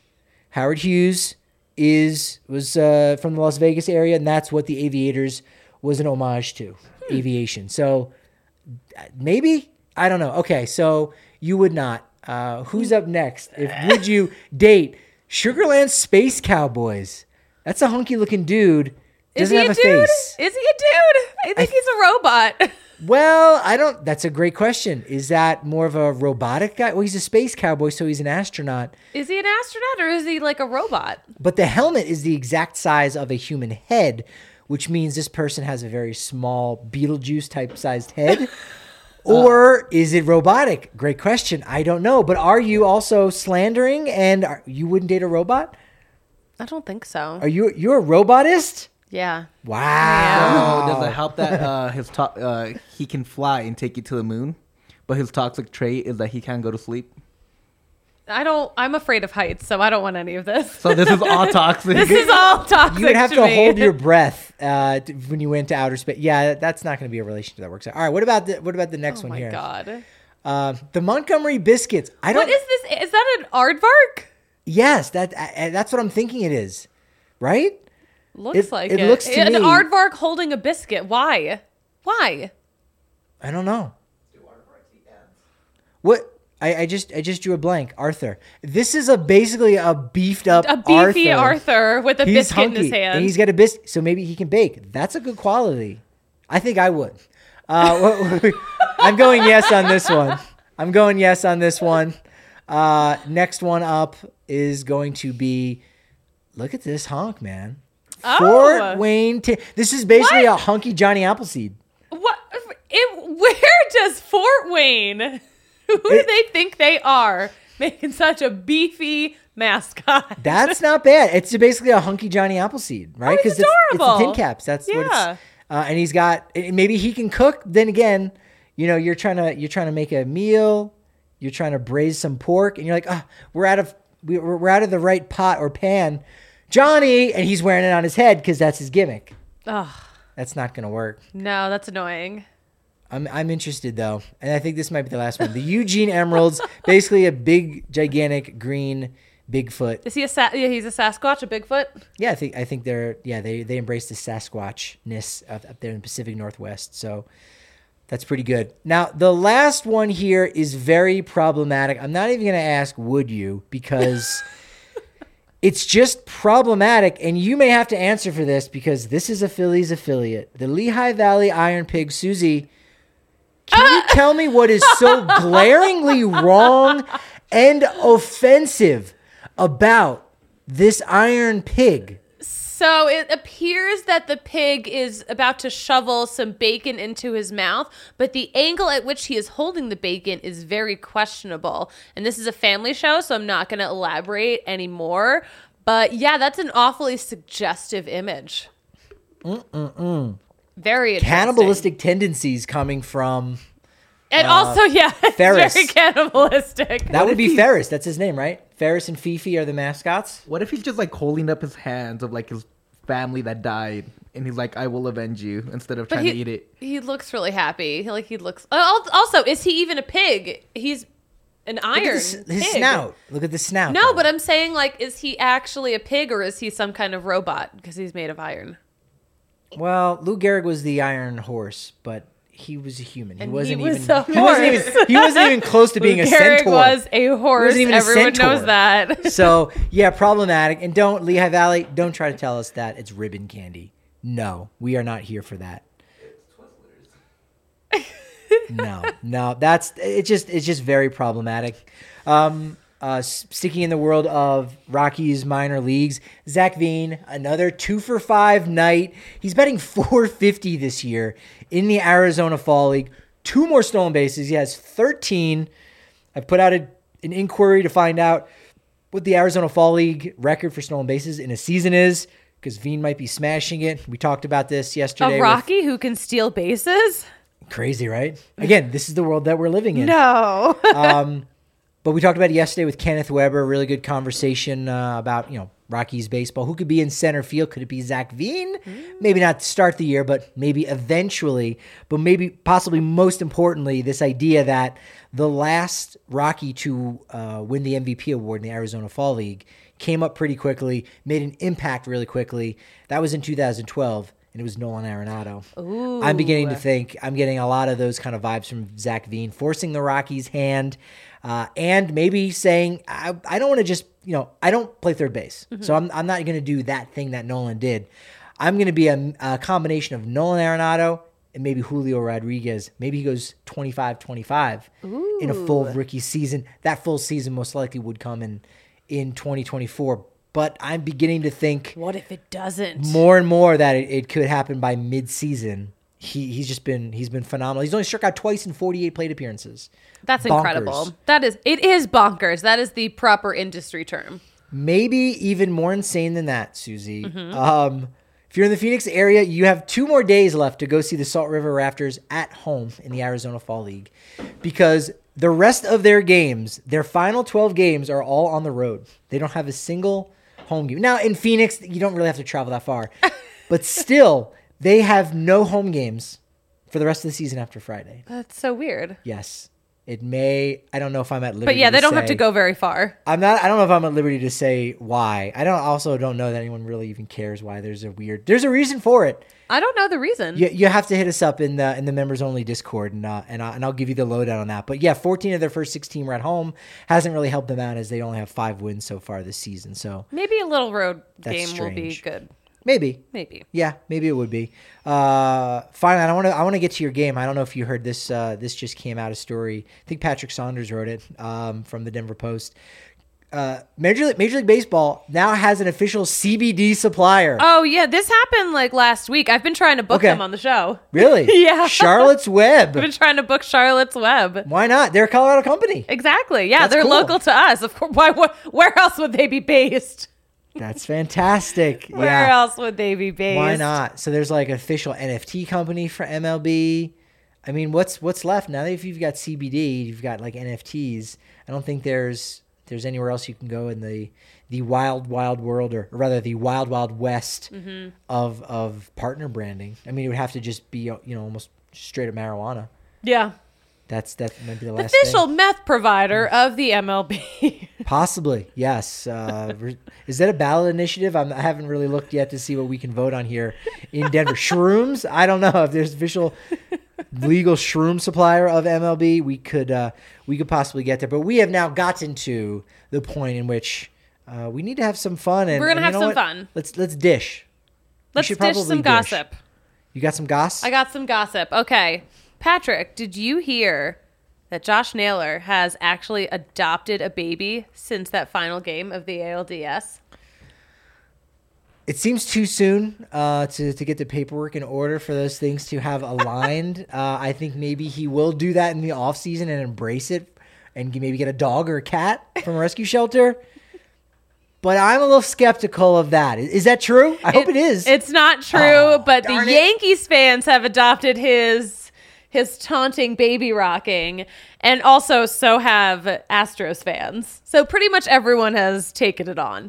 was from the Las Vegas area, and that's what the Aviators was an homage to, aviation. So maybe, I don't know. Okay, so you would not. Who's up next? Would you date Sugarland Space Cowboys? That's a hunky looking dude. Is Doesn't he have a a dude? face. Is he a dude? I think he's a robot. Well, I don't. That's a great question. Is that more of a robotic guy? Well, he's a space cowboy, so he's an astronaut. Is he an astronaut or is he like a robot? But the helmet is the exact size of a human head which means this person has a very small Beetlejuice type sized head? Or is it robotic? Great question. I don't know. But are you also slandering and you wouldn't date a robot? I don't think so. Are you're a robotist? Yeah. Wow. So does it help that his talk he can fly and take you to the moon, but his toxic trait is that he can't go to sleep? I'm afraid of heights, so I don't want any of this. So this is all toxic. This is all toxic. You would have to me. hold your breath when you went to outer space. Yeah, that's not going to be a relationship that works out. All right, what about the next Oh one my here? God. The Montgomery Biscuits. What is this? Is that an aardvark? Yes, that's what I'm thinking it is. Right? Looks like it. It looks to An me- aardvark holding a biscuit. Why? Why? I don't know. Do aardvarks eat ants? What? I just drew a blank. Arthur. This is basically a beefed up A beefy Arthur with a He's biscuit in his hunky, hand. and he's got a biscuit, so maybe he can bake. That's a good quality. I think I would. I'm going yes on this one. Next one up is going to be. Look at this honk, man. Oh. Fort Wayne. This is basically What? a hunky Johnny Appleseed. What? Where does Fort Wayne? Who do they think they are making such a beefy mascot? That's not bad. It's basically a hunky Johnny Appleseed, right? he's it's the adorable. tin caps. That's what Yeah. it's. And he's got. Maybe he can cook. Then again, you're trying to make a meal. You're trying to braise some pork, and you're like, we're out of the right pot or pan, Johnny, and he's wearing it on his head because that's his gimmick. Oh, That's not gonna work. no, that's annoying. I'm interested though, and I think this might be the last one. The Eugene Emeralds, basically a big, gigantic green Bigfoot. Is he he's a Sasquatch, a Bigfoot? Yeah, I think they embrace the Sasquatchness up there in the Pacific Northwest. So that's pretty good. Now the last one here is very problematic. I'm not even going to ask would you, because it's just problematic, and you may have to answer for this because this is a Phillies affiliate, the Lehigh Valley Iron Pig. Susie, can you tell me what is so glaringly wrong and offensive about this Iron Pig? So it appears that the pig is about to shovel some bacon into his mouth, but the angle at which he is holding the bacon is very questionable. And this is a family show, so I'm not going to elaborate anymore. But yeah, that's an awfully suggestive image. Very interesting. Cannibalistic tendencies coming from And also, yeah, it's Ferris. very cannibalistic. that would be Ferris. That's his name, right? Ferris and Fifi are the mascots. What if he's just like holding up his hands of like his family that died, and he's like, "I will avenge you," instead of trying to eat it? He looks really happy. Like he looks. Also, is he even a pig? He's an Look iron. at his pig. snout. Look at the snout. No, though. but I'm saying, like, is he actually a pig or is he some kind of robot because he's made of iron? Well, Lou Gehrig was the Iron Horse, but he was a human. And wasn't he was even. a horse. He wasn't even close to being a Gehrig centaur. was a horse. wasn't even a Everyone centaur. knows that. So yeah, problematic. And don't Lehigh Valley. Don't try to tell us that it's ribbon candy. No, we are not here for that. No, that's it's just very problematic. Sticking in the world of Rockies minor leagues, Zach Veen, another 2-for-5 night. He's betting $450 this year in the Arizona Fall League. 2 more stolen bases. He has 13. I've put out an inquiry to find out what the Arizona Fall League record for stolen bases in a season is, because Veen might be smashing it. We talked about this yesterday. A Rocky who can steal bases? Crazy, right? Again, this is the world that we're living in. No. But we talked about it yesterday with Kenneth Weber. Really good conversation about, Rockies baseball. Who could be in center field? Could it be Zach Veen? Maybe not to start the year, but maybe eventually. But maybe, possibly most importantly, this idea that the last Rocky to win the MVP award in the Arizona Fall League came up pretty quickly, made an impact really quickly. That was in 2012. And it was Nolan Arenado. Ooh. I'm beginning to think I'm getting a lot of those kind of vibes from Zach Veen, forcing the Rockies' hand, and maybe saying, I don't want to just, I don't play third base. So I'm not going to do that thing that Nolan did. I'm going to be a combination of Nolan Arenado and maybe Julio Rodriguez. Maybe he goes 25-25 in a full rookie season. That full season most likely would come in 2024. but I'm beginning to think What if it doesn't? more and more that it could happen by mid-season. He's been phenomenal. He's only struck out twice in 48 plate appearances. That's Bonkers. incredible. It is bonkers. That is the proper industry term. Maybe even more insane than that, Susie. Mm-hmm. If you're in the Phoenix area, you have 2 more days left to go see the Salt River Raptors at home in the Arizona Fall League, because the rest of their games, their final 12 games, are all on the road. They don't have a single home game. Now, in Phoenix, you don't really have to travel that far, but still, they have no home games for the rest of the season after Friday. That's so weird. Yes. It may, I don't know if I'm at liberty. But yeah, they don't have say- to go very far. I don't know if I'm at liberty to say why. I also don't know that anyone really even cares why. There's a reason for it. I don't know the reason. You have to hit us up in the members only Discord, and I'll give you the lowdown on that. But yeah, 14 of their first 16 were at home. Hasn't really helped them out, as they only have 5 wins so far this season. So Maybe a little road That's game will be strange. good. maybe. Maybe. Maybe it would be. Finally, I want to get to your game. I don't know if you heard this. This just came out, a story. I think Patrick Saunders wrote it from the Denver Post. Major League Baseball now has an official CBD supplier. Oh yeah, this happened like last week. I've been trying to book Okay. them on the show. Really? Yeah. Charlotte's Web. I've been trying to book Charlotte's Web. Why not? They're a Colorado company. Exactly. Yeah, That's they're cool. local to us. Of course. Where else would they be based? That's fantastic. Where Yeah. else would they be based? Why not? So there's like official NFT company for MLB. I mean, what's left now? If you've got CBD, you've got like NFTs. I don't think there's anywhere else you can go in the wild world, or rather the wild west Mm-hmm. of partner branding. I mean, it would have to just be almost straight up marijuana. Yeah. That might be the last Official thing. meth provider of the MLB. Possibly, yes. Is that a ballot initiative? I haven't really looked yet to see what we can vote on here in Denver. Shrooms? I don't know if there's official legal shroom supplier of MLB. We could possibly get there, but we have now gotten to the point in which we need to have some fun. And We're gonna and have you know some what? fun. Let's dish. We Let's should dish probably some gossip. You got some goss? I got some gossip. Okay. Patrick, did you hear that Josh Naylor has actually adopted a baby since that final game of the ALDS? It seems too soon to get the paperwork in order for those things to have aligned. I think maybe he will do that in the offseason and embrace it and maybe get a dog or a cat from a rescue shelter. But I'm a little skeptical of that. Is that true? I hope it is. It's not true, Oh, but the darn it. Yankees fans have adopted his taunting baby rocking, and also so have Astros fans. So pretty much everyone has taken it on.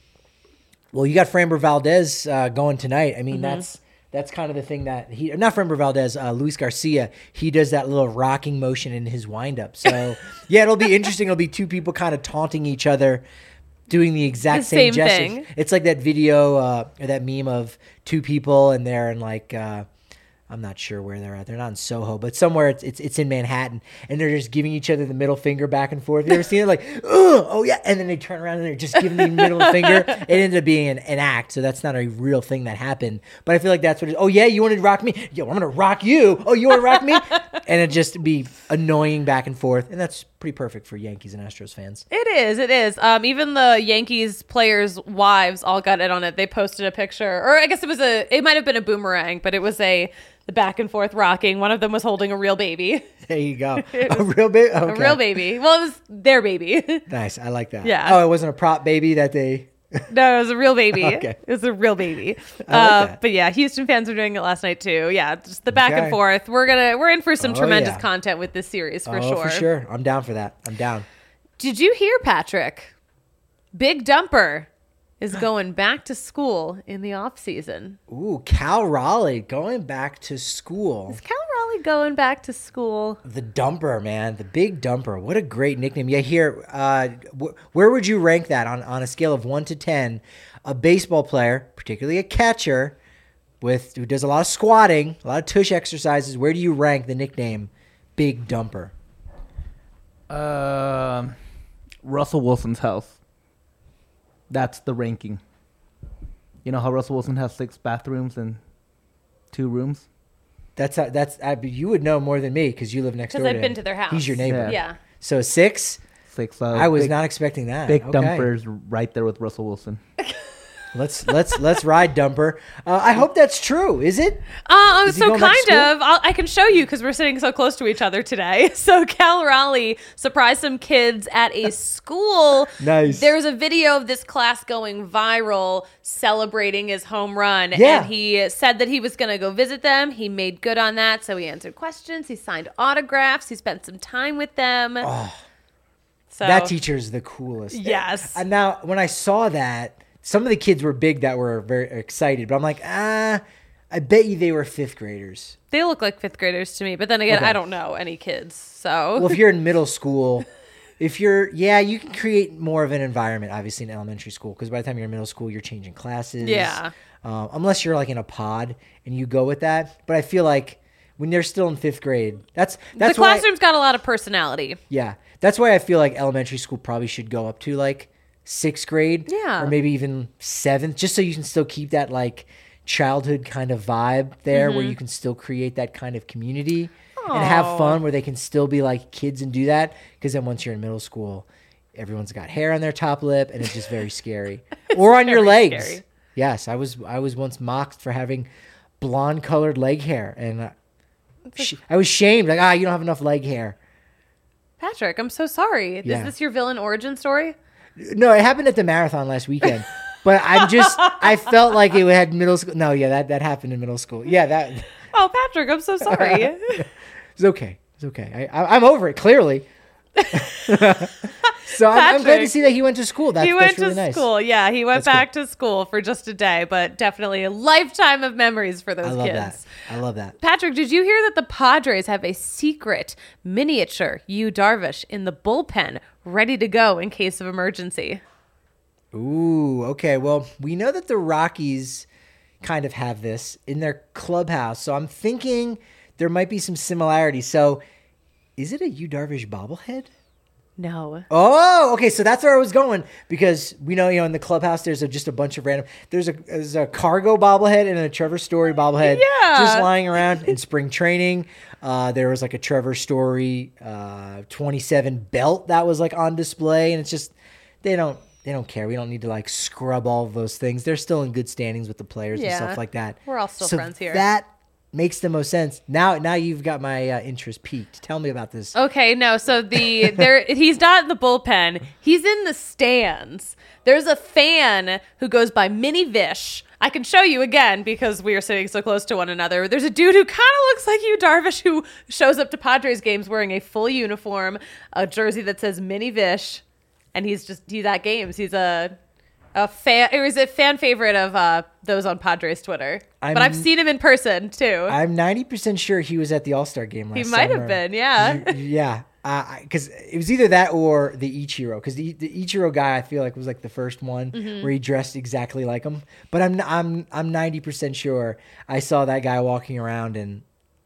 Well, you got Framber Valdez going tonight. I mean, Mm-hmm. that's kind of the thing that not Framber Valdez, Luis Garcia, he does that little rocking motion in his windup. So, yeah, it'll be interesting. It'll be 2 people kind of taunting each other, doing the exact The same same gestures. thing. It's like that video or that meme of 2 people and they're in like I'm not sure where they're at. They're not in Soho, but somewhere it's in Manhattan, and they're just giving each other the middle finger back and forth. You ever seen it? Like, oh yeah, and then they turn around and they're just giving the middle finger. It ended up being an act, so that's not a real thing that happened. But I feel like that's what it is. Oh yeah, you want to rock me? Yo, I'm gonna rock you. Oh, you want to rock me? And it just be annoying back and forth, and that's pretty perfect for Yankees and Astros fans. It is. Even the Yankees players' wives all got in on it. They posted a picture, or I guess it might have been a boomerang, but it was the back and forth rocking. One of them was holding a real baby. There you go. A real baby. Okay. A real baby. Well, it was their baby. Nice. I like that. Yeah. Oh, it wasn't a prop baby that they. No, it was a real baby. Okay. It was a real baby. I like that. But yeah, Houston fans were doing it last night too. Yeah, just the back Okay. and forth. We're in for some Oh, tremendous yeah. content with this series for Oh, sure. for sure. I'm down for that. I'm down. Did you hear, Patrick? Big Dumper is going back to school in the off season. Ooh, Cal Raleigh going back to school. Is Cal Raleigh going back to school? The Dumper, man. The Big Dumper. What a great nickname. Yeah, here, where would you rank that on a scale of 1 to 10? A baseball player, particularly a catcher, who does a lot of squatting, a lot of tush exercises. Where do you rank the nickname Big Dumper? Russell Wilson's house. That's the ranking. You know how Russell Wilson has 6 bathrooms and 2 rooms? You would know more than me because you live next door. Because I've been to their house. He's your neighbor. Yeah. Yeah. So 6. 6. I was not expecting that. Big Okay. Dumper's right there with Russell Wilson. Let's ride, Dumper. I hope that's true. Is it? Is he So going back to kind school? of. I can show you because we're sitting so close to each other today. So Cal Raleigh surprised some kids at a school. Nice. There's a video of this class going viral celebrating his home run. Yeah. And he said that he was going to go visit them. He made good on that. So he answered questions. He signed autographs. He spent some time with them. Oh, so that teacher is the coolest. Yes. And now, when I saw that, some of the kids were big that were very excited, but I'm like, I bet you they were fifth graders. They look like fifth graders to me. But then again, Okay. I don't know any kids. So Well, if you're in middle school, you can create more of an environment, obviously, in elementary school, because by the time you're in middle school, you're changing classes. Yeah. Unless you're like in a pod and you go with that. But I feel like when they're still in fifth grade, that's the why, classroom's got a lot of personality. yeah, that's why I feel like elementary school probably should go up to like sixth grade, Yeah. or maybe even seventh, just so you can still keep that like childhood kind of vibe there, where you can still create that kind of community and have Aw. fun, where they can still be like kids and do that. Because then once you're in middle school, everyone's got hair on their top lip, and it's just very scary, or on your very legs. scary. Yes, I was once mocked for having blonde colored leg hair, and I was shamed, like, you don't have enough leg hair. Patrick, I'm so sorry. Yeah. Is this your villain origin story? No, it happened at the marathon last weekend. But I felt like it had middle school. No, yeah, that happened in middle school. Yeah, that Oh, Patrick, I'm so sorry. it's okay. It's okay. I'm over it, clearly. So I'm glad to Patrick, see that he went to school. That's he went really to nice. school. Yeah, he went That's back to school for just a day, but definitely a lifetime of memories for those I love kids. that. I love that. Patrick, did you hear that the Padres have a secret miniature Yu Darvish in the bullpen ready to go in case of emergency? Ooh, okay. Well, we know that the Rockies kind of have this in their clubhouse. So I'm thinking there might be some similarities. So is it a Yu Darvish bobblehead? No. Oh, okay. So that's where I was going, because we know, in the clubhouse, there's just a bunch of random. There's a Cargo bobblehead and a Trevor Story bobblehead Yeah. just lying around in spring training. There was like a Trevor Story 27 belt that was like on display, and it's just they don't care. We don't need to like scrub all of those things. They're still in good standings with the players and Yeah. stuff like that. We're all still So friends here. That makes the most sense. Now you've got my interest peaked. Tell me about this. Okay, no. So he's not in the bullpen. He's in the stands. There's a fan who goes by Mini Vish. I can show you again because we are sitting so close to one another. There's a dude who kind of looks like Yu Darvish who shows up to Padres games wearing a full uniform, a jersey that says Mini Vish, and he's at games. He's a fan. It was a fan favorite of those on Padres Twitter. But I've seen him in person too. I'm 90% sure he was at the All-Star game last He might have summer. been, yeah. Yeah. Because it was either that or the Ichiro. Because the Ichiro guy, I feel like, was like the first one where he dressed exactly like him. But I'm 90% sure I saw that guy walking around, and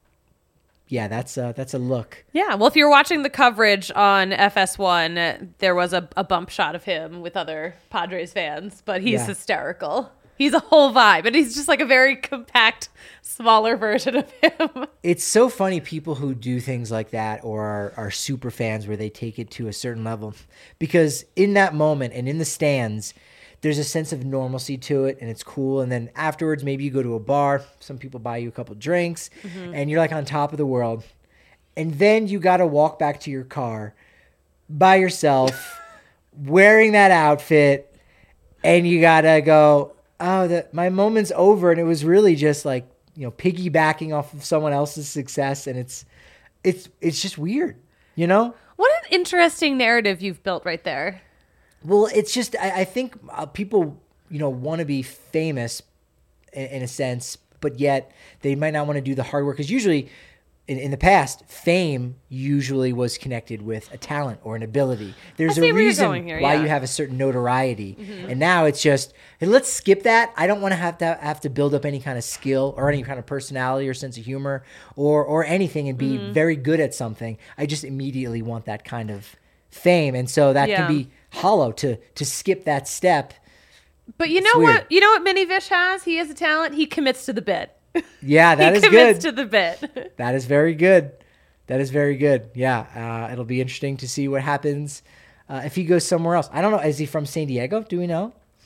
yeah, that's a look. Yeah, well, if you're watching the coverage on FS1, there was a bump shot of him with other Padres fans, but he's Yeah. hysterical. He's a whole vibe, and he's just like a very compact, smaller version of him. It's so funny, people who do things like that or are super fans where they take it to a certain level, because in that moment and in the stands, there's a sense of normalcy to it, and it's cool. And then afterwards, maybe you go to a bar, some people buy you a couple drinks, and you're like on top of the world. And then you got to walk back to your car by yourself, wearing that outfit, and you got to go, my moment's over. And it was really just like, piggybacking off of someone else's success. And it's just weird, What an interesting narrative you've built right there. Well, it's just, I think people, want to be famous in a sense, but yet they might not want to do the hard work. Because usually in the past, fame usually was connected with a talent or an ability. There's I see a where you're reason going here, why yeah. you have a certain notoriety. And now it's just, hey, let's skip that. I don't want to have to build up any kind of skill or any kind of personality or sense of humor or anything and be very good at something. I just immediately want that kind of fame. And so that Yeah. can be hollow to skip that step. But you It's know weird. what? You know what Mini Vish has? He has a talent. He commits to the bit. Yeah, that he is commits good. to the bit. That is very good. That is very good. Yeah, it'll be interesting to see what happens if he goes somewhere else. I don't know. Is he from San Diego? Do we know?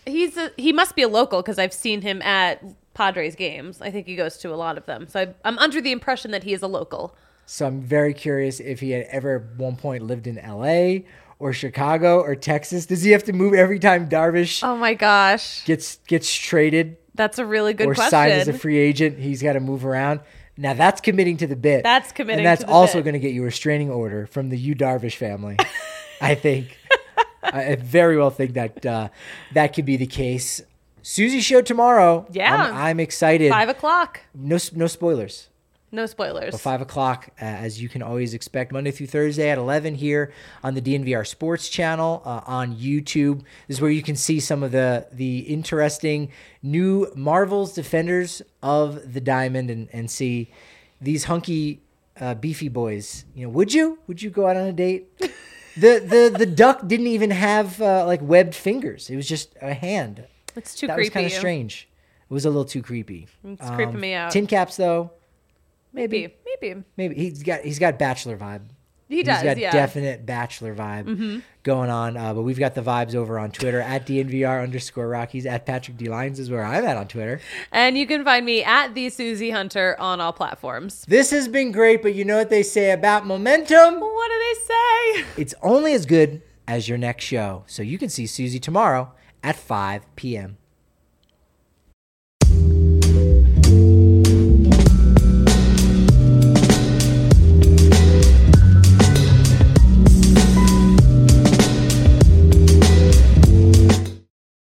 He must be a local because I've seen him at Padres games. I think he goes to a lot of them. So I'm under the impression that he is a local. So I'm very curious if he had ever at one point lived in LA or Chicago or Texas. Does he have to move every time Darvish Oh my gosh. gets traded That's a really good or question. signed as a free agent? He's got to move around. Now that's committing to the bit. That's committing and that's to the also bit. going to get you a restraining order from the Yu Darvish family. I think. I very well think that that could be the case. Susie show tomorrow. Yeah. I'm excited. 5:00. No spoilers. No spoilers. But 5 o'clock, as you can always expect, Monday through Thursday at 11 here on the DNVR Sports channel on YouTube. This is where you can see some of the interesting new Marvel's Defenders of the Diamond and see these hunky, beefy boys. You know, would you go out on a date? The duck didn't even have like webbed fingers. It was just a hand. It's too That creepy. was kind of strange. It was a little too creepy. It's creeping me out. Tin caps though. Maybe. Maybe he's got bachelor vibe. He does, He's got yeah. definite bachelor vibe going on. But we've got the vibes over on Twitter at DNVR_Rockies, at Patrick D. Lyons is where I'm at on Twitter. And you can find me at the Susie Hunter on all platforms. This has been great, but you know what they say about momentum? What do they say? It's only as good as your next show. So you can see Susie tomorrow at 5 p.m.